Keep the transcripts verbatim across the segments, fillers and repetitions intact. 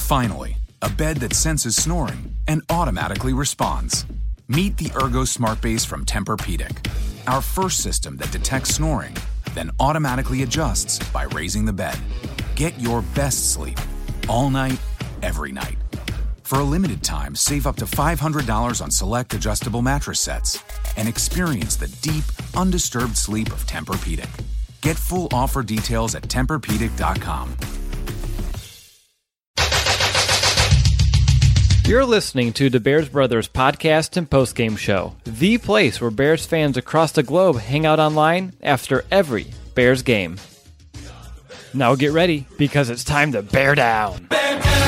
Finally, a bed that senses snoring and automatically responds. Meet the Ergo Smart Base from Tempur-Pedic, our first system that detects snoring, then automatically adjusts by raising the bed. Get your best sleep all night, every night. For a limited time, save up to five hundred dollars on select adjustable mattress sets and experience the deep, undisturbed sleep of Tempur-Pedic. Get full offer details at Tempur Pedic dot com. You're listening to the Bears Brothers podcast and postgame show, the place where Bears fans across the globe hang out online after every Bears game. Now get ready, because it's time to bear down. Bear down.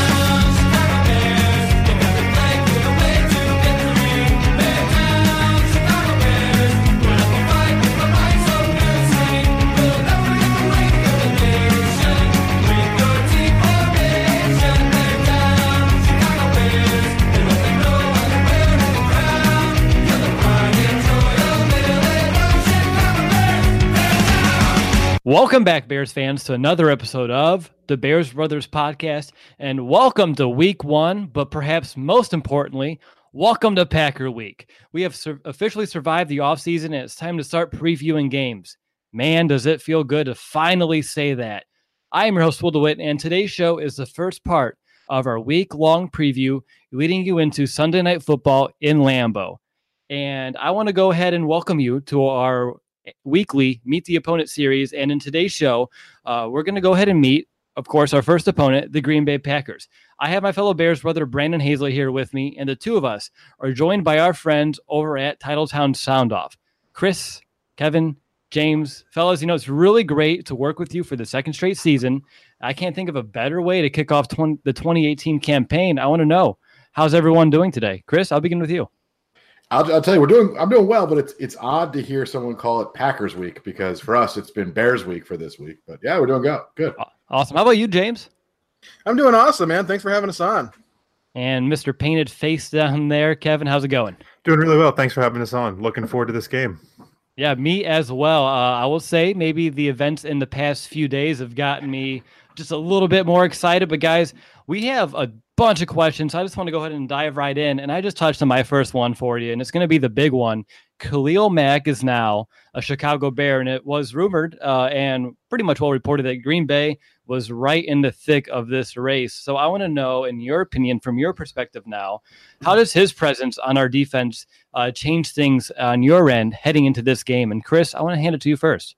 Welcome back, Bears fans, to another episode of the Bears Brothers podcast, and welcome to week one, but perhaps most importantly, welcome to Packer Week. We have sur- officially survived the offseason, and it's time to start previewing games. Man, does it feel good to finally say that. I am your host, Will DeWitt, and today's show is the first part of our week-long preview leading you into Sunday Night Football in Lambeau. And I want to go ahead and welcome you to our weekly Meet the Opponent series, and in today's show uh, we're going to go ahead and meet, of course, our first opponent, the Green Bay Packers. I have my fellow Bears brother Brandon Hazley here with me, and the two of us are joined by our friends over at Titletown Sound Off. Chris, Kevin, James, fellas, you know, it's really great to work with you for the second straight season. I can't think of a better way to kick off twenty, the twenty eighteen campaign. I want to know, how's everyone doing today? Chris, I'll begin with you. I'll, I'll tell you, we're doing. I'm doing well, but it's it's odd to hear someone call it Packers Week, because for us it's been Bears Week for this week. But yeah, we're doing good. Good. Awesome. How about you, James? I'm doing awesome, man. Thanks for having us on. And Mister Painted Face down there, Kevin, how's it going? Doing really well. Thanks for having us on. Looking forward to this game. Yeah, me as well. Uh, I will say maybe the events in the past few days have gotten me just a little bit more excited. But guys, we have a bunch of questions. So I just want to go ahead and dive right in. And I just touched on my first one for you, and it's going to be the big one. Khalil Mack is now a Chicago Bear, and it was rumored uh, and pretty much well reported that Green Bay was right in the thick of this race. So I want to know, in your opinion, from your perspective now, how does his presence on our defense uh, change things on your end heading into this game? And Chris, I want to hand it to you first.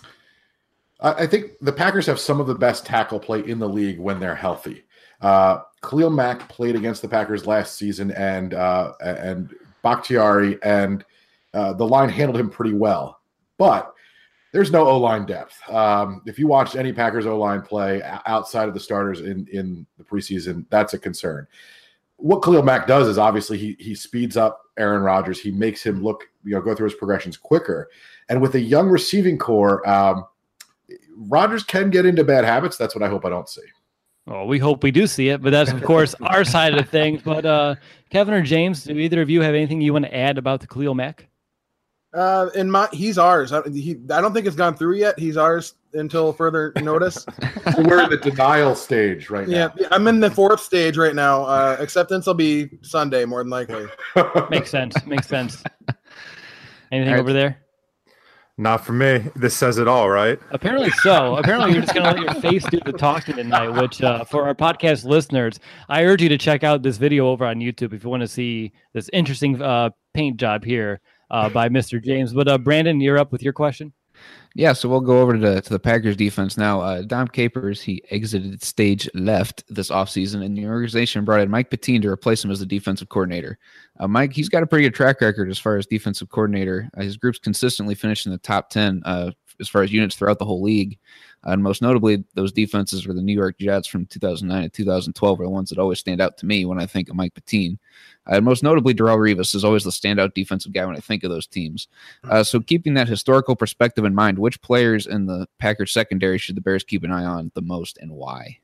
I think the Packers have some of the best tackle play in the league when they're healthy. Uh, Khalil Mack played against the Packers last season, and uh, and Bakhtiari and uh, the line handled him pretty well. But there's no O-line depth. Um, if you watched any Packers O-line play outside of the starters in, in the preseason, that's a concern. What Khalil Mack does is obviously he he speeds up Aaron Rodgers. He makes him look, you know, go through his progressions quicker. And with a young receiving core, um, Rodgers can get into bad habits. That's what I hope I don't see. Well, we hope we do see it, but that's, of course, our side of things. But uh, Kevin or James, do either of you have anything you want to add about the Khalil Mack? Uh, in my, he's ours. I, he, I don't think it's gone through yet. He's ours until further notice. We're in the denial stage right yeah, now. Yeah, I'm in the fourth stage right now. Uh, acceptance will be Sunday, more than likely. Makes sense. Makes sense. Anything right over there? Not for me. This says it all, right? Apparently so. Apparently you're just going to let your face do the talking tonight, which uh, for our podcast listeners, I urge you to check out this video over on YouTube if you want to see this interesting uh, paint job here uh, by Mister James. But uh, Brandon, you're up with your question. Yeah, so we'll go over to the, to the Packers defense now. Uh, Dom Capers, he exited stage left this offseason, and the organization brought in Mike Pettine to replace him as the defensive coordinator. Uh, Mike, he's got a pretty good track record as far as defensive coordinator. Uh, his group's consistently finished in the top ten uh, as far as units throughout the whole league. Uh, and most notably, those defenses were the New York Jets from two thousand nine to two thousand twelve are the ones that always stand out to me when I think of Mike Pettine. Uh, and most notably, Darrelle Revis is always the standout defensive guy when I think of those teams. Uh, so keeping that historical perspective in mind, which players in the Packers secondary should the Bears keep an eye on the most and why?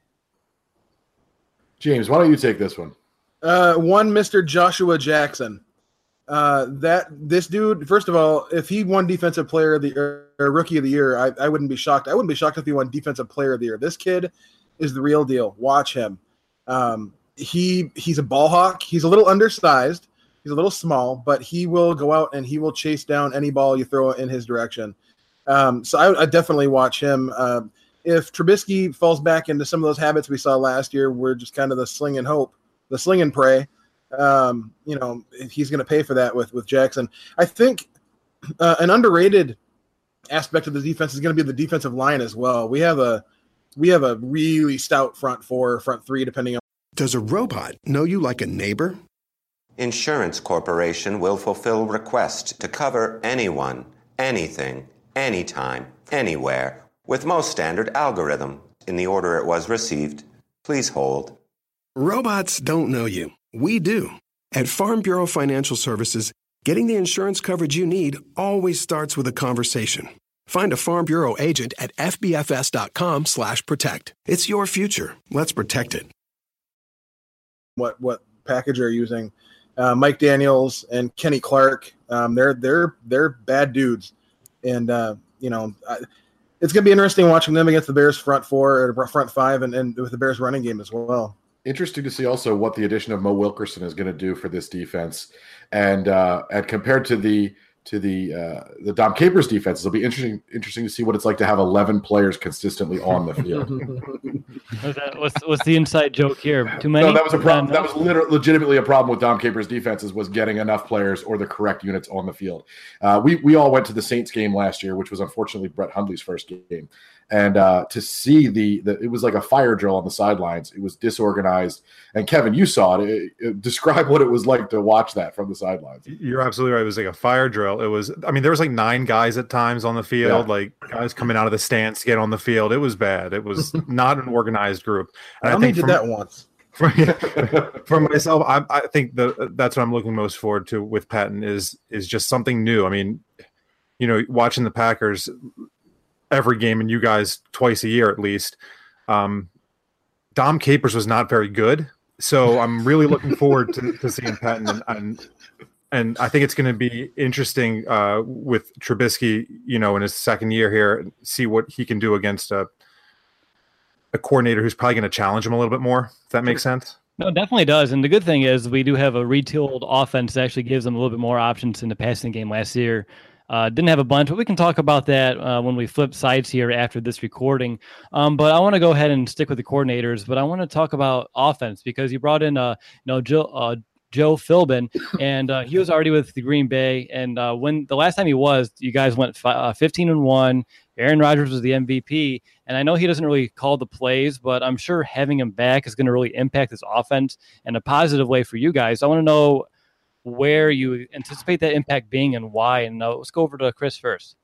James, why don't you take this one? Uh, one Mister Joshua Jackson. Uh, that this dude, first of all, if he won Defensive Player of the or, or Rookie of the Year, I, I wouldn't be shocked. I wouldn't be shocked if he won Defensive Player of the Year. This kid is the real deal. Watch him. Um, he he's a ball hawk. He's a little undersized. He's a little small, but he will go out and he will chase down any ball you throw in his direction. Um, so I, I definitely watch him. Uh, if Trubisky falls back into some of those habits we saw last year, we're just kind of the sling and hope, the sling and pray. Um, you know, he's going to pay for that with with Jackson. I think uh, an underrated aspect of the defense is going to be the defensive line as well. We have a we have a really stout front four, front three, depending on. Does a robot know you like a neighbor? Insurance Corporation will fulfill requests to cover anyone, anything, anytime, anywhere, with most standard algorithm in the order it was received. Please hold. Robots don't know you. We do. At Farm Bureau Financial Services, getting the insurance coverage you need always starts with a conversation. Find a Farm Bureau agent at fbfs.com slash protect. It's your future. Let's protect it. What what package are using? Uh, Mike Daniels and Kenny Clark. Um, they're they're they're bad dudes, and uh, you know I, it's gonna be interesting watching them against the Bears front four or front five, and, and with the Bears running game as well. Interesting to see also what the addition of Mo Wilkerson is going to do for this defense, and uh, and compared to the to the uh, the Dom Capers defense, it'll be interesting interesting to see what it's like to have eleven players consistently on the field. What's, that, what's, what's the inside joke here? Too many? No, that was a problem. That was literally, legitimately a problem with Dom Capers' defenses was getting enough players or the correct units on the field. Uh, we we all went to the Saints game last year, which was unfortunately Brett Hundley's first game. And uh, to see the, the – it was like a fire drill on the sidelines. It was disorganized. And, Kevin, you saw it. It, it. Describe what it was like to watch that from the sidelines. You're absolutely right. It was like a fire drill. It was – I mean, there was like nine guys at times on the field, yeah. like guys coming out of the stands to get on the field. It was bad. It was not an organized group. And I, I think did from, that once. For, for myself, I, I think the, that's what I'm looking most forward to with Patton is is just something new. I mean, you know, watching the Packers – every game, and you guys twice a year at least. Um, Dom Capers was not very good, so I'm really looking forward to, to seeing Patton, and, and and I think it's going to be interesting uh, with Trubisky, you know, in his second year here, see what he can do against a a coordinator who's probably going to challenge him a little bit more. If that makes sense. No, it definitely does. And the good thing is we do have a retooled offense that actually gives them a little bit more options in the passing game last year. Uh, didn't have a bunch, but we can talk about that uh, when we flip sides here after this recording. Um, but I want to go ahead and stick with the coordinators, but I want to talk about offense because you brought in, uh, you know, Joe, uh, Joe Philbin, and uh, he was already with the Green Bay. And uh, when the last time he was, you guys went fi- uh, fifteen and one. Aaron Rodgers was the M V P, and I know he doesn't really call the plays, but I'm sure having him back is going to really impact this offense in a positive way for you guys. I want to know where you anticipate that impact being and why. And uh, let's go over to Chris first.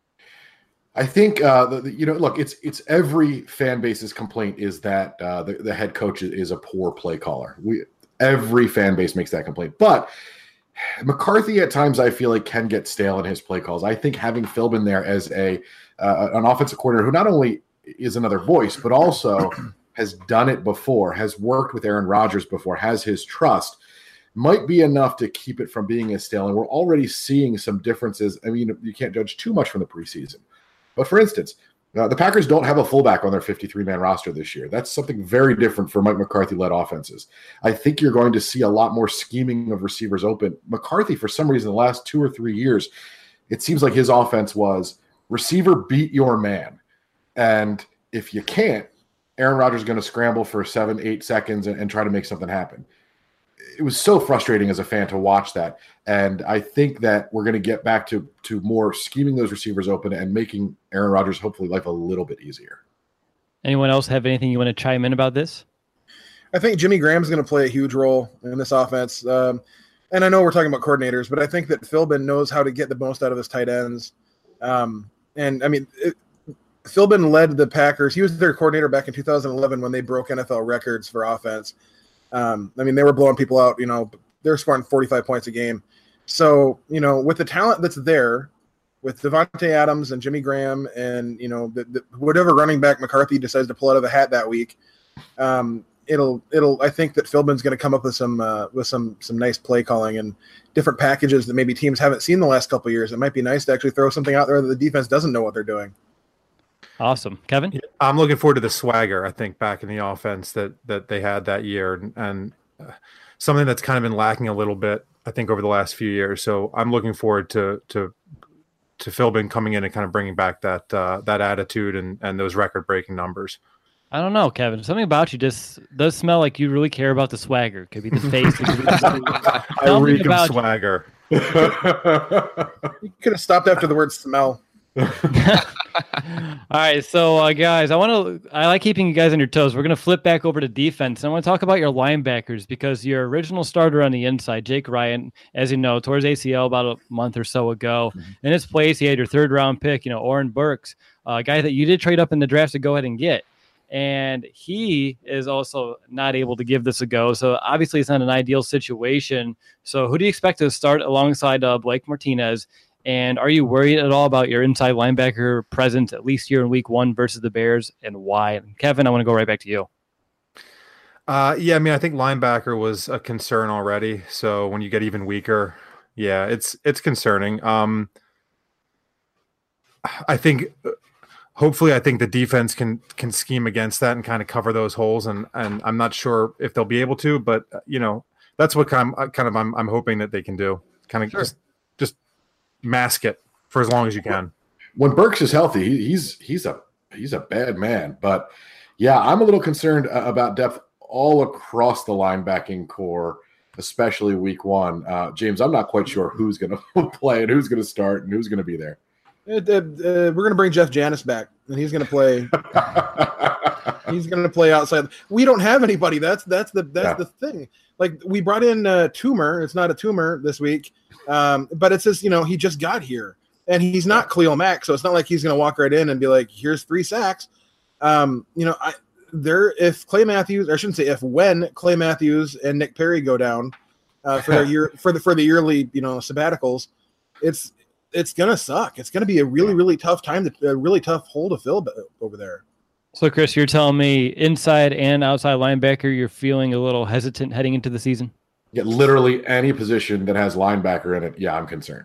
I think, uh, the, the, you know, look, it's it's every fan base's complaint is that uh, the, the head coach is a poor play caller. We Every fan base makes that complaint. But McCarthy at times I feel like can get stale in his play calls. I think having Philbin there as a uh, an offensive coordinator who not only is another voice, but also has done it before, has worked with Aaron Rodgers before, has his trust, might be enough to keep it from being as stale. And we're already seeing some differences. I mean, you can't judge too much from the preseason. But for instance, uh, the Packers don't have a fullback on their fifty-three man roster this year. That's something very different for Mike McCarthy-led offenses. I think you're going to see a lot more scheming of receivers open. McCarthy, for some reason, the last two or three years, it seems like his offense was receiver beat your man. And if you can't, Aaron Rodgers is going to scramble for seven, eight seconds and, and try to make something happen. It was so frustrating as a fan to watch that. And I think that we're going to get back to to more scheming those receivers open and making Aaron Rodgers hopefully life a little bit easier. Anyone else have anything you want to chime in about this? I think Jimmy Graham's going to play a huge role in this offense. Um, and I know we're talking about coordinators, but I think that Philbin knows how to get the most out of his tight ends. Um, and I mean, it, Philbin led the Packers. He was their coordinator back in two thousand eleven when they broke N F L records for offense. Um, I mean, they were blowing people out, you know, they were scoring forty-five points a game. So, you know, with the talent that's there, with Devontae Adams and Jimmy Graham and, you know, the, the, whatever running back McCarthy decides to pull out of the hat that week, um, it'll, it'll, I think that Philbin's going to come up with some, uh, with some, some nice play calling and different packages that maybe teams haven't seen the last couple of years. It might be nice to actually throw something out there that the defense doesn't know what they're doing. Awesome. Kevin? I'm looking forward to the swagger, I think, back in the offense that that they had that year, and, and uh, something that's kind of been lacking a little bit, I think, over the last few years. So I'm looking forward to to to Philbin coming in and kind of bringing back that uh, that attitude and and those record breaking numbers. I don't know, Kevin. Something about you just does smell like you really care about the swagger. Could be the face. It could be the I reek of swagger. You could have stopped after the word smell. All right, so uh, guys, I want to. I like keeping you guys on your toes. We're going to flip back over to defense. And I want to talk about your linebackers because your original starter on the inside, Jake Ryan, as you know, tore his A C L about a month or so ago. Mm-hmm. In his place, he had your third round pick, you know, Oren Burks, a guy that you did trade up in the draft to go ahead and get. And he is also not able to give this a go. So obviously it's not an ideal situation. So who do you expect to start alongside uh, Blake Martinez? And are you worried at all about your inside linebacker presence, at least here in week one versus the Bears, and why? And Kevin, I want to go right back to you. Uh, yeah, I mean, I think linebacker was a concern already. So when you get even weaker, yeah, it's it's concerning. Um, I think... Hopefully, I think the defense can can scheme against that and kind of cover those holes, and and I'm not sure if they'll be able to, but you know that's what kind of kind of I'm I'm hoping that they can do, kind of sure. just just mask it for as long as you can. When Burks is healthy, he, he's he's a he's a bad man, but yeah, I'm a little concerned about depth all across the linebacking core, especially week one. Uh, James, I'm not quite sure who's going to play and who's going to start and who's going to be there. Uh, uh, we're going to bring Jeff Janis back, and he's going to play. he's going to play outside. We don't have anybody. That's that's the that's yeah. the thing. Like we brought in uh, Toomer. It's not a Toomer this week, um, but it says you know he just got here, and he's not Khalil Mack, so it's not like he's going to walk right in and be like, "Here's three sacks." Um, you know, I there if Clay Matthews, or I shouldn't say if when Clay Matthews and Nick Perry go down uh, for their year for the for the yearly you know sabbaticals, it's. It's gonna suck. It's gonna be a really, really tough time, to, a really tough hole to fill over there. So, Chris, you're telling me inside and outside linebacker, you're feeling a little hesitant heading into the season? Yeah, literally any position that has linebacker in it. Yeah, I'm concerned.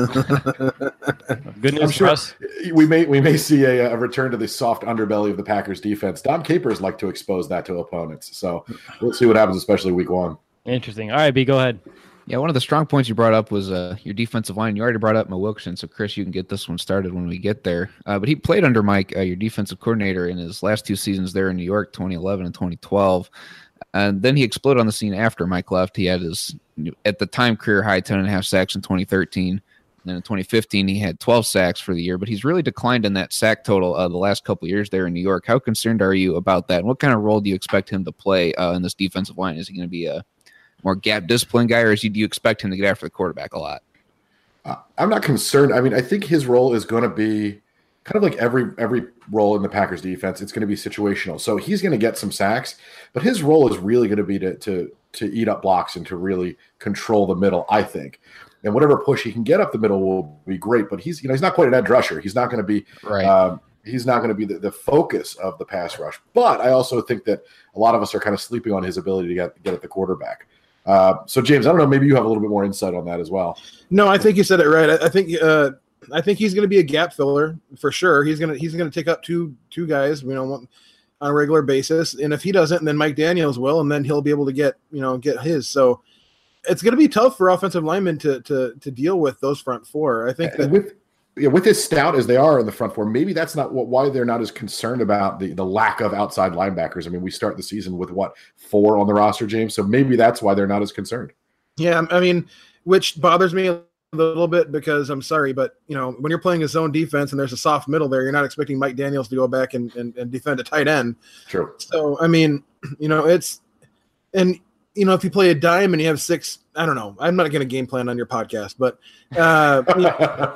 Good news sure for us. We may we may see a, a return to the soft underbelly of the Packers defense. Dom Capers like to expose that to opponents, so we'll see what happens, especially week one. Interesting. All right, B, go ahead. Yeah, one of the strong points you brought up was uh, your defensive line. You already brought up Mo Wilkerson, so Chris, you can get this one started when we get there. Uh, but he played under Mike, uh, your defensive coordinator, in his last two seasons there in New York, twenty eleven and twenty twelve. And then he exploded on the scene after Mike left. He had his, at the time, career high ten and a half sacks in twenty thirteen. And then in twenty fifteen, he had twelve sacks for the year. But he's really declined in that sack total uh, the last couple of years there in New York. How concerned are you about that? And what kind of role do you expect him to play uh, in this defensive line? Is he going to be a more gap discipline guy, or is he, do you expect him to get after the quarterback a lot? Uh, I'm not concerned. I mean, I think his role is going to be kind of like every every role in the Packers defense. It's going to be situational. So he's going to get some sacks, but his role is really going to be to to to eat up blocks and to really control the middle, I think. And whatever push he can get up the middle will be great. But he's you know he's not quite an edge rusher. He's not going to be right. Um, he's not going to be the, the focus of the pass rush. But I also think that a lot of us are kind of sleeping on his ability to get get at the quarterback. Uh, so James, I don't know, maybe you have a little bit more insight on that as well. No, I think you said it right. I, I think uh, I think he's going to be a gap filler for sure. He's going to he's going to take up two two guys, you know, on a regular basis. And if he doesn't, then Mike Daniels will, and then he'll be able to get you know get his. So it's going to be tough for offensive linemen to to to deal with those front four. I think that with yeah, with as stout as they are in the front four, maybe that's not what why they're not as concerned about the, the lack of outside linebackers. I mean, we start the season with what four on the roster, James. So maybe that's why they're not as concerned. Yeah, I mean, which bothers me a little bit because I'm sorry, but you know, when you're playing a zone defense and there's a soft middle there, you're not expecting Mike Daniels to go back and, and, and defend a tight end. True. So I mean, you know, it's and you know, if you play a dime and you have six, I don't know. I'm not going to game plan on your podcast, but uh, you know,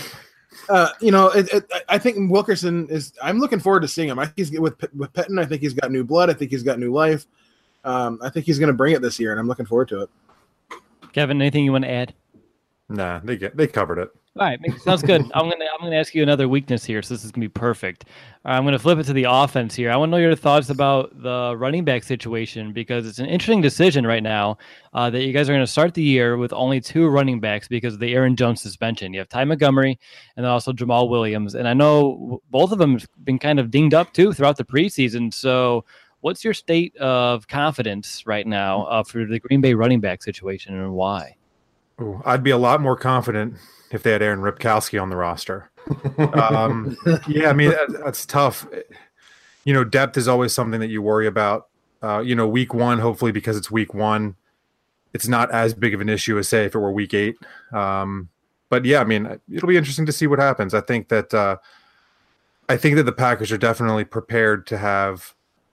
uh, you know it, it, I think Wilkerson is. I'm looking forward to seeing him. I think he's with with Pettin. I think he's got new blood. I think he's got new life. Um, I think he's going to bring it this year, and I'm looking forward to it. Kevin, anything you want to add? Nah, they get they covered it. All right, sounds good. I'm gonna I'm gonna ask you another weakness here, so this is gonna be perfect. Uh, I'm gonna flip it to the offense here. I want to know your thoughts about the running back situation because it's an interesting decision right now uh, that you guys are gonna start the year with only two running backs because of the Aaron Jones suspension. You have Ty Montgomery and then also Jamal Williams, and I know both of them have been kind of dinged up too throughout the preseason. So, what's your state of confidence right now uh, for the Green Bay running back situation and why? Ooh, I'd be a lot more confident if they had Aaron Ripkowski on the roster. Um, yeah, I mean, that, that's tough. You know, depth is always something that you worry about. Uh, you know, week one, hopefully because it's week one, it's not as big of an issue as, say, if it were week eight. Um, but, yeah, I mean, it'll be interesting to see what happens. I think that uh, I think that the Packers are definitely prepared to have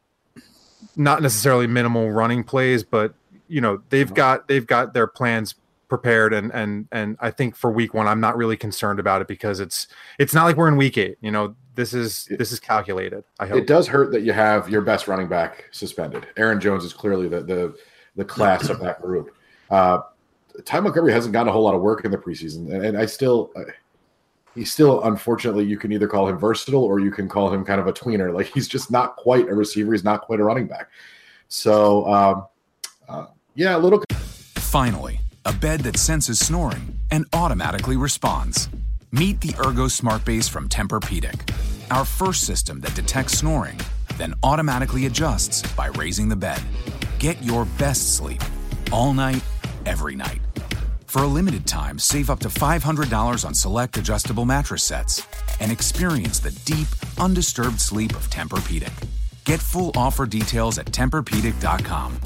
not necessarily minimal running plays, but, you know, they've got they've got their plans prepared, and and and I think for week one I'm not really concerned about it because it's it's not like we're in week eight. You know, this is this is calculated. I hope. It does hurt that you have your best running back suspended. Aaron Jones is clearly the the, the class of that group. Uh, Ty Montgomery hasn't gotten a whole lot of work in the preseason, and, and I still uh, he's still unfortunately you can either call him versatile or you can call him kind of a tweener. Like he's just not quite a receiver. He's not quite a running back. So um, uh, yeah, a little. Finally, a bed that senses snoring and automatically responds. Meet the Ergo Smart Base from Tempur-Pedic, our first system that detects snoring, then automatically adjusts by raising the bed. Get your best sleep all night, every night. For a limited time, save up to five hundred dollars on select adjustable mattress sets and experience the deep, undisturbed sleep of Tempur-Pedic. Get full offer details at Tempur Pedic dot com.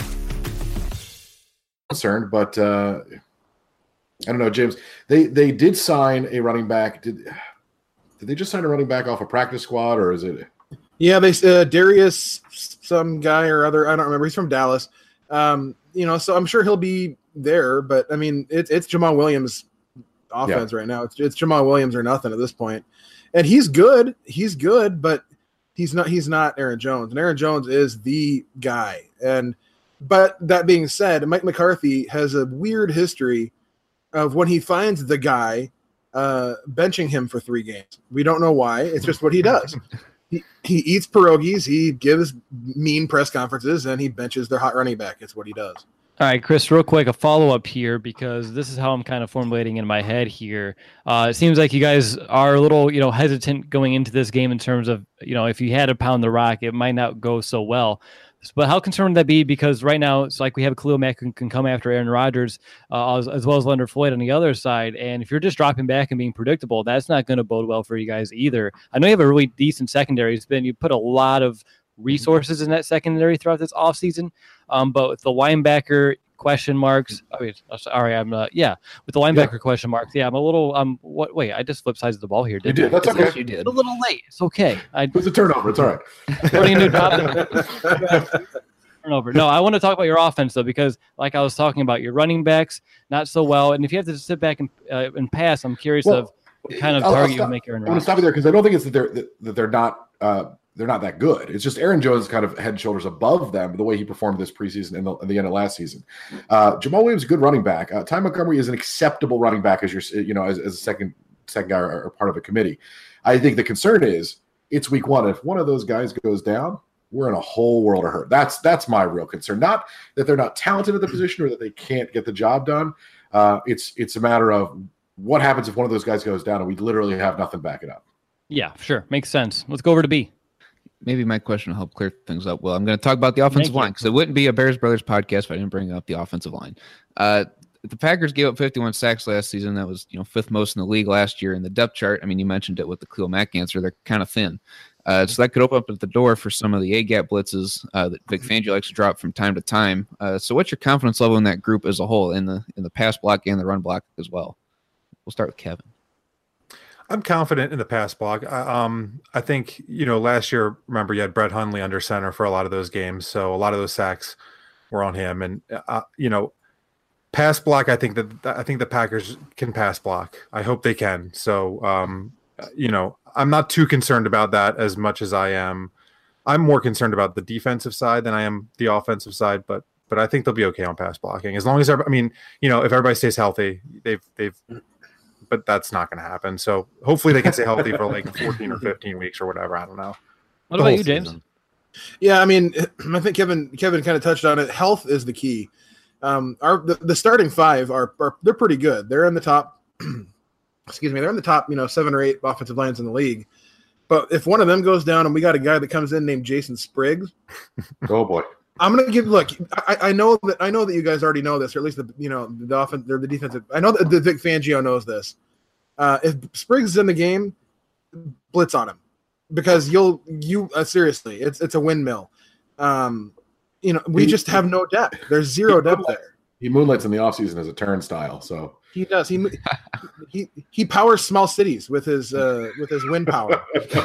Concerned, but uh, I don't know, James. They they did sign a running back. Did did they just sign a running back off a practice squad, or is it? Yeah, they uh, Darius, some guy or other. I don't remember. He's from Dallas. Um, you know, so I'm sure he'll be there. But I mean, it's it's Jamal Williams' offense yeah. right now. It's it's Jamal Williams or nothing at this point, and he's good. He's good, but he's not. He's not Aaron Jones, and Aaron Jones is the guy. And but that being said, Mike McCarthy has a weird history of when he finds the guy, uh, benching him for three games. We don't know why. It's just what he does. he, he eats pierogies, he gives mean press conferences, and he benches their hot running back. It's what he does. All right, Chris, real quick, a follow-up here because this is how I'm kind of formulating in my head here. Uh, it seems like you guys are a little, you know, hesitant going into this game in terms of, you know, if you had to pound the rock, it might not go so well. But how concerned would that be? Because right now it's like we have Khalil Mack who can come after Aaron Rodgers uh, as, as well as Leonard Floyd on the other side. And if you're just dropping back and being predictable, that's not going to bode well for you guys either. I know you have a really decent secondary. It's been you put a lot of resources in that secondary throughout this offseason. Um, but with the linebacker question marks, I mean, sorry, I'm uh, yeah, with the linebacker yeah. question marks, yeah, I'm a little. Um, what? Wait, I just flipped sides of the ball here. Didn't you did. I? That's okay. Yes, you did. A little late. It's okay. I, it was a turnover. It's all right. What do you do? Turnover. No, I want to talk about your offense though, because like I was talking about, your running backs not so well, and if you have to sit back and uh, and pass, I'm curious well, of what kind of I'll, target I'll stop, you make Aaron Rodgers. I want to stop you there because I don't think it's that they're that, that they're not. Uh, They're not that good. It's just Aaron Jones kind of head and shoulders above them the way he performed this preseason and the, the end of last season. Uh, Jamal Williams, a good running back. Uh, Ty Montgomery is an acceptable running back as your, you know, as, as a second second guy or, or part of a committee. I think the concern is it's week one. If one of those guys goes down, we're in a whole world of hurt. That's that's my real concern. Not that they're not talented at the position or that they can't get the job done. Uh, it's it's a matter of what happens if one of those guys goes down and we literally have nothing back it up. Yeah, sure. Makes sense. Let's go over to B. Maybe my question will help clear things up. Well, I'm going to talk about the offensive line because it wouldn't be a Bears Brothers podcast if I didn't bring up the offensive line. Uh, the Packers gave up fifty-one sacks last season. That was, you know, fifth most in the league last year. In the depth chart, I mean, you mentioned it with the Khalil Mack answer. They're kind of thin. Uh, so that could open up the door for some of the A-gap blitzes uh, that Vic Fangio likes to drop from time to time. Uh, so what's your confidence level in that group as a whole, in the in the pass block and the run block as well? We'll start with Kevin. I'm confident in the pass block. I, um, I think, you know, last year, remember, you had Brett Hundley under center for a lot of those games. So a lot of those sacks were on him. And, uh, you know, pass block, I think that I think the Packers can pass block. I hope they can. So, um, you know, I'm not too concerned about that as much as I am. I'm more concerned about the defensive side than I am the offensive side, but but I think they'll be okay on pass blocking. As long as, I mean, you know, if everybody stays healthy, they've, they've, but that's not going to happen. So hopefully they can stay healthy for like fourteen or fifteen weeks or whatever. I don't know. What The about whole you, James? season. Yeah, I mean, I think Kevin Kevin kind of touched on it. Health is the key. Um, our the, the starting five are, are they're pretty good. They're in the top. excuse me, they're in the top, you know, seven or eight offensive lines in the league. But if one of them goes down, and we got a guy that comes in named Jason Spriggs, Oh boy. I'm gonna give. Look, I, I know that I know that you guys already know this, or at least the you know the offense or the defensive. I know that the Vic Fangio knows this. Uh, if Spriggs is in the game, blitz on him, because you'll you uh, seriously, it's it's a windmill. Um, you know, we He- just have no depth. There's zero depth there. He moonlights in the offseason as a turnstile. So He does. He he he powers small cities with his uh, with his wind power.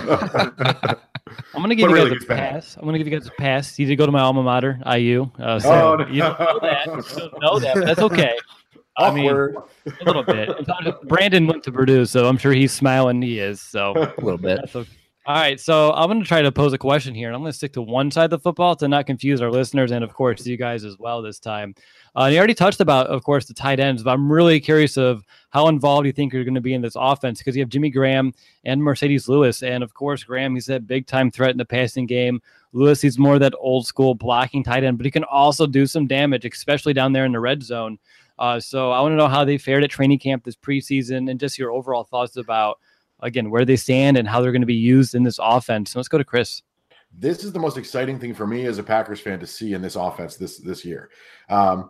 I'm going to give But you really, guys it's a bad. pass. I'm going to give you guys a pass. You did go to my alma mater, I U. Uh, so Oh, no. you don't know that. You don't know that, but that's okay. I mean, awkward. a little bit. Brandon went to Purdue, so I'm sure he's smiling. He is. So A little bit. that's okay. All right, so I'm going to try to pose a question here, and I'm going to stick to one side of the football to not confuse our listeners and, of course, you guys as well this time. Uh, and you already touched about, of course, the tight ends, but I'm really curious of how involved you think you're going to be in this offense, because you have Jimmy Graham and Mercedes Lewis, and, of course, Graham, he's that big-time threat in the passing game. Lewis, he's more that old-school blocking tight end, but he can also do some damage, especially down there in the red zone. Uh, so I want to know how they fared at training camp this preseason and just your overall thoughts about, again, where they stand and how they're going to be used in this offense. So let's go to Chris. This is the most exciting thing for me as a Packers fan to see in this offense this this year. Um,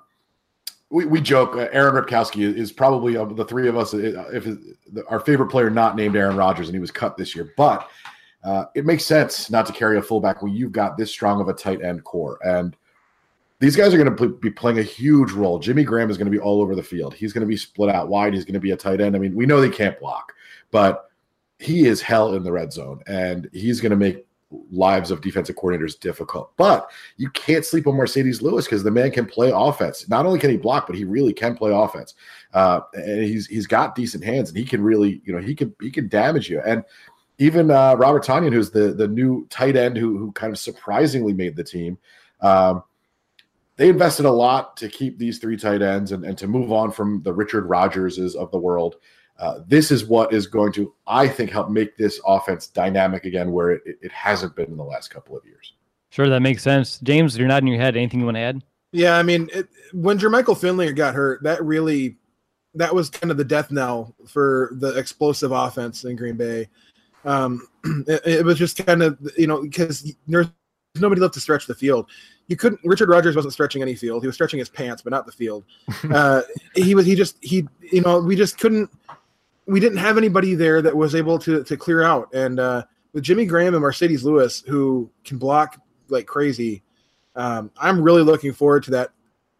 we, we joke, uh, Aaron Ripkowski is, is probably of the three of us, uh, if it, the, our favorite player not named Aaron Rodgers, and he was cut this year. But uh, it makes sense not to carry a fullback when you've got this strong of a tight end core. And these guys are going to be playing a huge role. Jimmy Graham is going to be all over the field. He's going to be split out wide. He's going to be a tight end. I mean, we know they can't block, but he is hell in the red zone, and he's going to make lives of defensive coordinators difficult. But you can't sleep on Mercedes Lewis, because the man can play offense. Not only can he block, but he really can play offense. Uh, and he's he's got decent hands, and he can really, you know, he can he can damage you. And even uh, Robert Tonyan, who's the the new tight end who who kind of surprisingly made the team. Um, they invested a lot to keep these three tight ends and, and to move on from the Richard Rodgerses of the world. Uh, this is what is going to, I think, help make this offense dynamic again, where it, it hasn't been in the last couple of years. Sure, that makes sense. James, you're nodding your head. Anything you want to add? Yeah, I mean, it, when Jermichael Finley got hurt, that really, that was kind of the death knell for the explosive offense in Green Bay. Um, it, it was just kind of, you know, because there's nobody left to stretch the field. You couldn't. Richard Rodgers wasn't stretching any field. He was stretching his pants, but not the field. Uh, he was. He just. He. You know. We just couldn't. We didn't have anybody there that was able to to clear out. And uh, with Jimmy Graham and Mercedes Lewis, who can block like crazy, um, I'm really looking forward to that.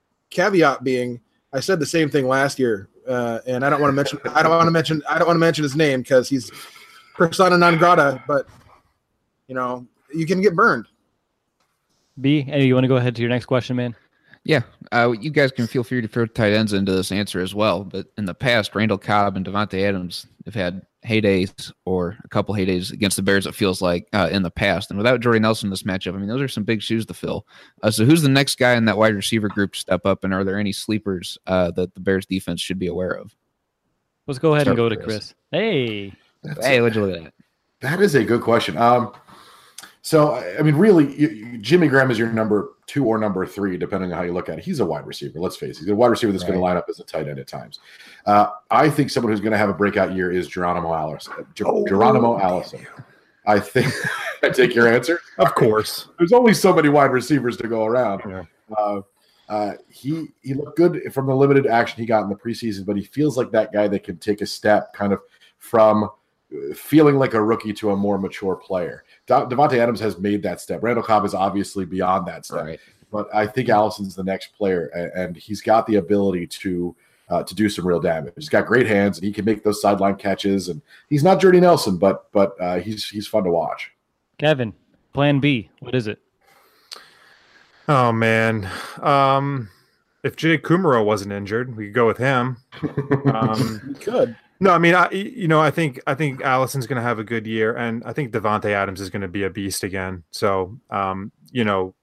Caveat being, I said the same thing last year, uh, and I don't want to mention. I don't want to mention. I don't want to mention his name because he's persona non grata. But you know, you can get burned. B, hey, you want to go ahead to your next question, man? Yeah, uh, you guys can feel free to throw tight ends into this answer as well. But in the past, Randall Cobb and Devontae Adams have had heydays or a couple heydays against the Bears, it feels like, uh, in the past. And without Jordy Nelson in this matchup, I mean, those are some big shoes to fill. Uh, so who's the next guy in that wide receiver group to step up? And are there any sleepers uh, that the Bears defense should be aware of? Let's go ahead Start and go with to Chris. Chris. Hey. That's Hey, what'd you look at that? That is a good question. Um, so, I mean, really, you, you, Jimmy Graham is your number two or number three, depending on how you look at it. He's a wide receiver. Let's face it. He's a wide receiver that's Right. going to line up as a tight end at times. Uh, I think someone who's going to have a breakout year is Geronimo Allison. Ger- Oh, Geronimo Allison. I think I take your answer. Of course. There's only so many wide receivers to go around. Yeah. Uh, uh, he he looked good from the limited action he got in the preseason, but he feels like that guy that can take a step kind of from feeling like a rookie to a more mature player. Da- Devontae Adams has made that step. Randall Cobb is obviously beyond that step. Right. But I think Allison's the next player, and, and he's got the ability to uh, to do some real damage. He's got great hands, and he can make those sideline catches. And he's not Jordy Nelson, but but uh, he's he's fun to watch. Kevin, plan B. What is it? Oh man. Um, if Jay Kumaro wasn't injured, we could go with him. Um, You could. no, I mean, I you know, I think I think Allison's going to have a good year, and I think Devontae Adams is going to be a beast again. So, um, you know,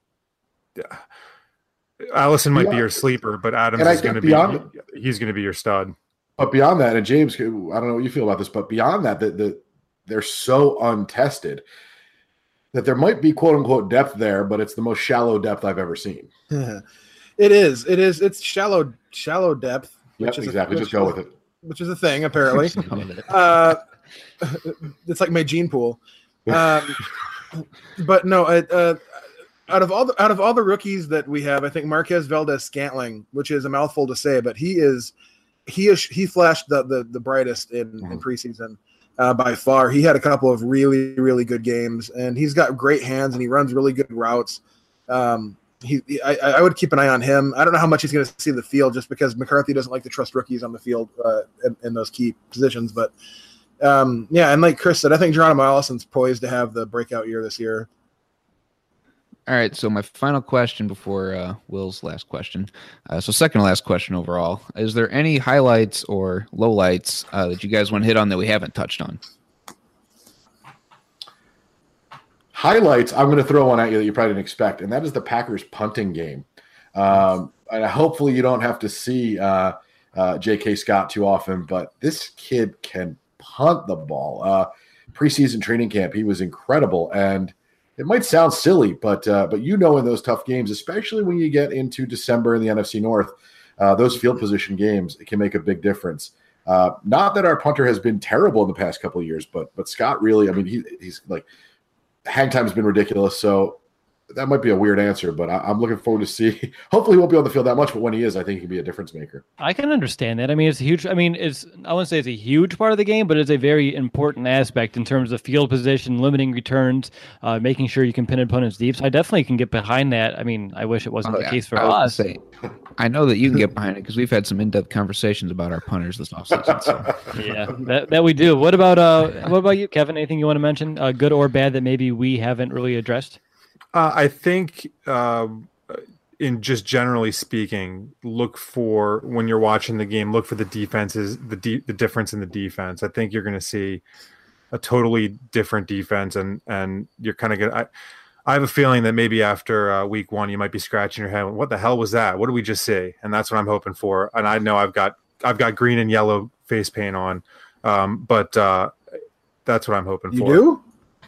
Allison might be Beyond- your sleeper, but Adams and I is going to think beyond- be he's going to be your stud. But beyond that, and James, I don't know what you feel about this, but beyond that, the, the they're so untested that there might be quote unquote depth there, but it's the most shallow depth I've ever seen. It is. It is. It's shallow, shallow depth. Yep, which is exactly. A, Just go with it. Which is a thing, apparently. uh, it's like my gene pool. Um, but no, it, uh, out of all the out of all the rookies that we have, I think Marquez Valdez-Scantling, which is a mouthful to say, but he is he is he flashed the the, the brightest in, mm-hmm. in preseason. Uh, by far, he had a couple of really, really good games, and he's got great hands, and he runs really good routes. Um, he, I, I would keep an eye on him. I don't know how much he's going to see the field, just because McCarthy doesn't like to trust rookies on the field uh, in, in those key positions. But um, yeah, and like Chris said, I think Geronimo Allison's poised to have the breakout year this year. All right, so my final question before uh, Will's last question. Uh, so second to last question overall. Is there any highlights or lowlights uh, that you guys want to hit on that we haven't touched on? Highlights, I'm going to throw one at you that you probably didn't expect, and that is the Packers punting game. Um, and hopefully you don't have to see uh, uh, J K. Scott too often, but this kid can punt the ball. Uh, preseason training camp, he was incredible, and it might sound silly, but uh, but you know in those tough games, especially when you get into December in the N F C North, uh, those field position games, it can make a big difference. Uh, not that our punter has been terrible in the past couple of years, but but Scott really, I mean, he, he's like, hang time has been ridiculous, so that might be a weird answer, but I, I'm looking forward to see. Hopefully, he won't be on the field that much, but when he is, I think he can be a difference maker. I can understand that. I mean, it's a huge. I mean, it's I wouldn't say it's a huge part of the game, but it's a very important aspect in terms of field position, limiting returns, uh, making sure you can pin opponents deep. So I definitely can get behind that. I mean, I wish it wasn't oh, the yeah. case for I us. Say, I know that you can get behind it because we've had some in-depth conversations about our punters this offseason. So. Yeah, that, that we do. What about uh? What about you, Kevin? Anything you want to mention, uh, good or bad, that maybe we haven't really addressed? Uh, I think, uh, in just generally speaking, look for when you're watching the game, look for the defenses, the de- the difference in the defense. I think you're going to see a totally different defense, and and you're kind of going to. I have a feeling that maybe after uh, week one, you might be scratching your head. What the hell was that? What did we just see? And that's what I'm hoping for. And I know I've got I've got green and yellow face paint on, um, but uh, that's what I'm hoping you for. You do?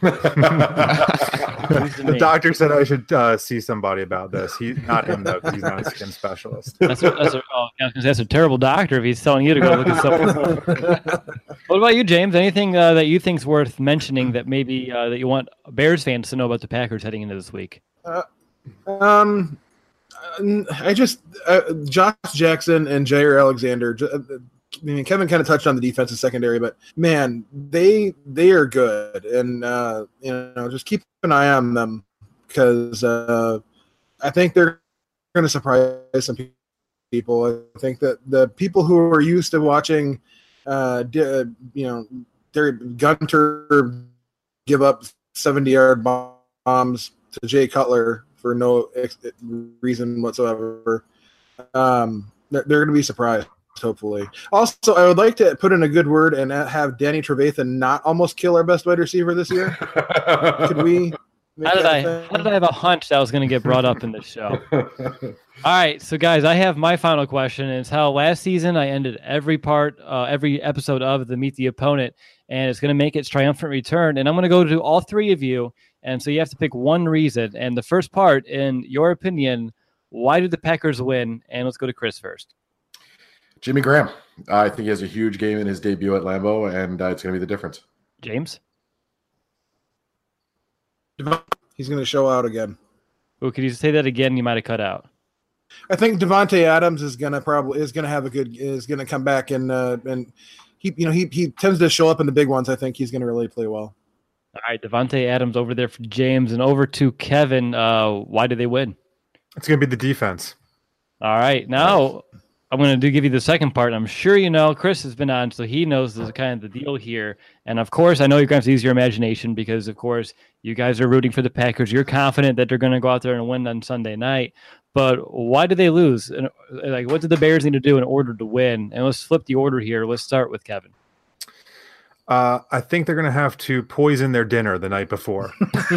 The doctor said I should uh, see somebody about this. He, not him though, because he's not a skin specialist. That's a, that's, a, oh, that's a terrible doctor if he's telling you to go look at something. What about you, James? Anything uh, that you think's worth mentioning that maybe uh, that you want Bears fans to know about the Packers heading into this week? Uh, um, I just uh, Josh Jackson and Jair Alexander. I mean, Kevin kind of touched on the defensive secondary, but man, they they are good, and uh, you know, just keep an eye on them because uh, I think they're going to surprise some people. I think that the people who are used to watching, uh, you know, their Gunter give up seventy-yard bombs to Jay Cutler for no ex- reason whatsoever, um, they're, they're going to be surprised. Hopefully. Also, I would like to put in a good word and have Danny Trevathan not almost kill our best wide receiver this year. Could we? How did I? Thing? How did I have a hunch that was going to get brought up in this show? All right, so guys, I have my final question. It's how last season I ended every part, uh, every episode of the Meet the Opponent, and it's going to make its triumphant return. And I'm going to go to all three of you, and so you have to pick one reason. And the first part, in your opinion, why did the Packers win? And let's go to Chris first. Jimmy Graham. Uh, I think he has a huge game in his debut at Lambeau, and uh, it's going to be the difference. James? He's going to show out again. Well, could you say that again? You might have cut out. I think Devontae Adams is going to probably is going to have a good is going to come back and uh, and he you know he he tends to show up in the big ones. I think he's going to really play well. All right, Devontae Adams over there for James, and over to Kevin. Uh, why did they win? It's going to be the defense. All right, now. I'm going to do give you the second part. I'm sure you know Chris has been on, so he knows the kind of the deal here. And of course, I know you're going to use your imagination because, of course, you guys are rooting for the Packers. You're confident that they're going to go out there and win on Sunday night. But why did they lose? And like, what did the Bears need to do in order to win? And let's flip the order here. Let's start with Kevin. Uh, I think they're going to have to poison their dinner the night before.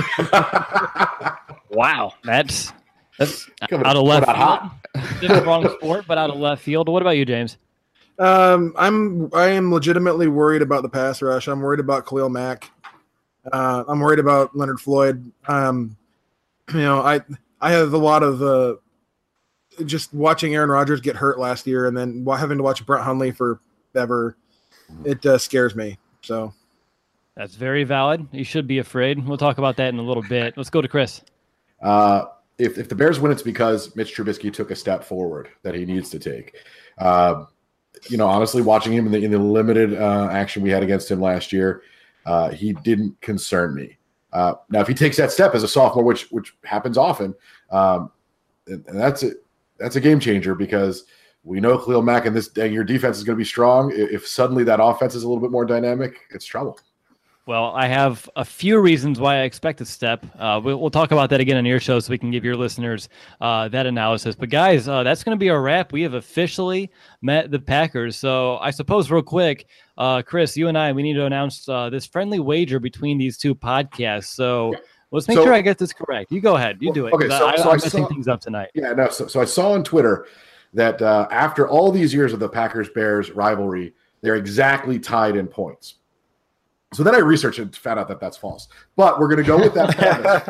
Wow, that's. That's Coming out of left field. This is wrong sport, but out of left field. What about you, James? Um, I'm I am legitimately worried about the pass rush. I'm worried about Khalil Mack. Uh, I'm worried about Leonard Floyd. Um, you know, I I have a lot of uh, just watching Aaron Rodgers get hurt last year, and then having to watch Brett Hundley for ever. It uh, scares me. So that's very valid. You should be afraid. We'll talk about that in a little bit. Let's go to Chris. Uh, if if the Bears win, it's because Mitch Trubisky took a step forward that he needs to take. Uh, you know, honestly, watching him in the in the limited uh, action we had against him last year, uh, he didn't concern me. Uh, now, if he takes that step as a sophomore, which which happens often, um, and, and that's a that's a game changer because we know Khalil Mack and this and your defense is going to be strong. If suddenly that offense is a little bit more dynamic, it's trouble. Well, I have a few reasons why I expect a step. Uh, we'll, we'll talk about that again on your show so we can give your listeners uh, that analysis. But, guys, uh, that's going to be a wrap. We have officially met the Packers. So I suppose real quick, uh, Chris, you and I, we need to announce uh, this friendly wager between these two podcasts. So yeah. let's make so, sure I get this correct. You go ahead. You do it. Okay, so, I, so I'm I messing saw, things up tonight. Yeah, no. So, so I saw on Twitter that uh, after all these years of the Packers-Bears rivalry, they're exactly tied in points. So then I researched and found out that that's false. But we're going to go with that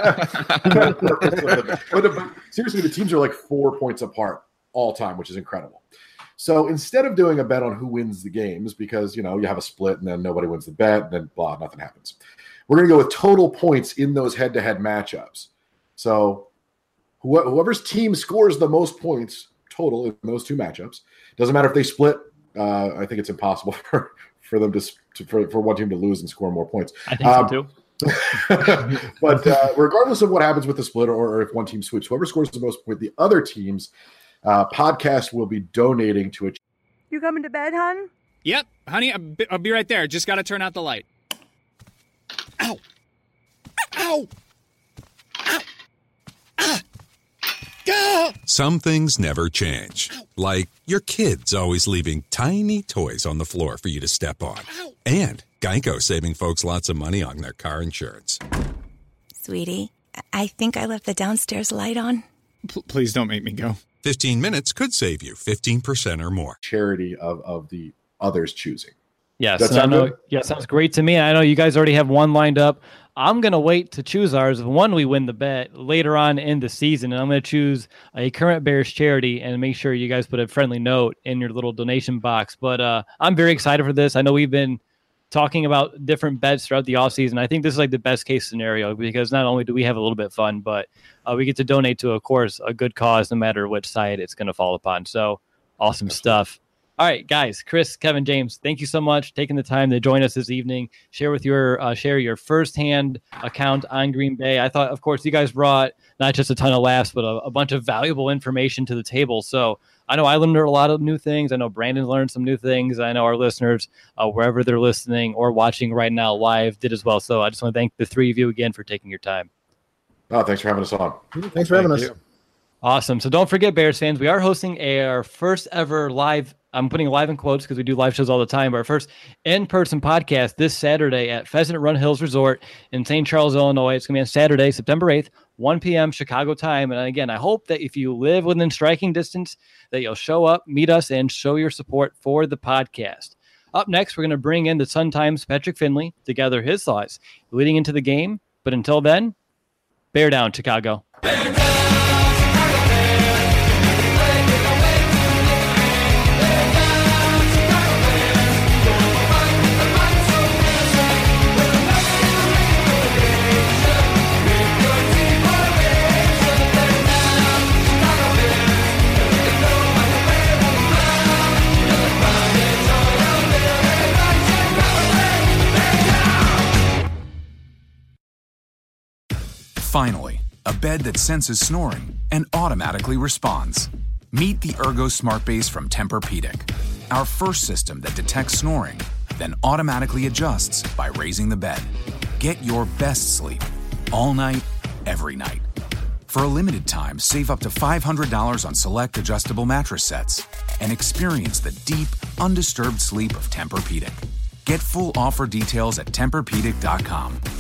premise. but, but seriously, the teams are like four points apart all time, which is incredible. So instead of doing a bet on who wins the games, because, you know, you have a split and then nobody wins the bet and then blah, nothing happens. We're going to go with total points in those head-to-head matchups. So wh- whoever's team scores the most points total in those two matchups, doesn't matter if they split. Uh, I think it's impossible for, for them to, to for, for one team to lose and score more points. I think um, so too. But uh, regardless of what happens with the split or, or if one team sweeps, whoever scores the most with the other teams, uh, podcast will be donating to a. You coming to bed, hon? Yep, honey, I'll be, I'll be right there. Just got to turn out the light. Ow! Ow! Ow! Ah! Go! Some things never change. Like your kids always leaving tiny toys on the floor for you to step on. And Geico saving folks lots of money on their car insurance. Sweetie, I think I left the downstairs light on. P- please don't make me go. fifteen minutes could save you fifteen percent or more. Charity of, of the others choosing. Yes, and I know, yeah, sounds great to me. I know you guys already have one lined up. I'm going to wait to choose ours. One, we win the bet later on in the season, and I'm going to choose a current Bears charity and make sure you guys put a friendly note in your little donation box. But uh, I'm very excited for this. I know we've been talking about different bets throughout the offseason. I think this is like the best case scenario because not only do we have a little bit of fun, but uh, we get to donate to, of course, a good cause no matter which side it's going to fall upon. So awesome stuff. All right, guys, Chris, Kevin, James, thank you so much for taking the time to join us this evening. Share with your uh, share your firsthand account on Green Bay. I thought, of course, you guys brought not just a ton of laughs, but a, a bunch of valuable information to the table. So I know I learned a lot of new things. I know Brandon learned some new things. I know our listeners, uh, wherever they're listening or watching right now live, did as well. So I just want to thank the three of you again for taking your time. Oh, thanks for having us on. Thanks for having thank us. You. Awesome. So don't forget, Bears fans, we are hosting our first ever live, I'm putting live in quotes because we do live shows all the time, but our first in-person podcast this Saturday at Pheasant Run Hills Resort in Saint Charles, Illinois. It's going to be on Saturday, September eighth, one p.m. Chicago time. And again, I hope that if you live within striking distance, that you'll show up, meet us, and show your support for the podcast. Up next, we're going to bring in the Sun Times' Patrick Finley to gather his thoughts leading into the game. But until then, bear down, Chicago. Bear down! Finally, a bed that senses snoring and automatically responds. Meet the Ergo Smart Base from Tempur-Pedic, our first system that detects snoring, then automatically adjusts by raising the bed. Get your best sleep all night, every night. For a limited time, save up to five hundred dollars on select adjustable mattress sets and experience the deep, undisturbed sleep of Tempur-Pedic. Get full offer details at Tempur Pedic dot com.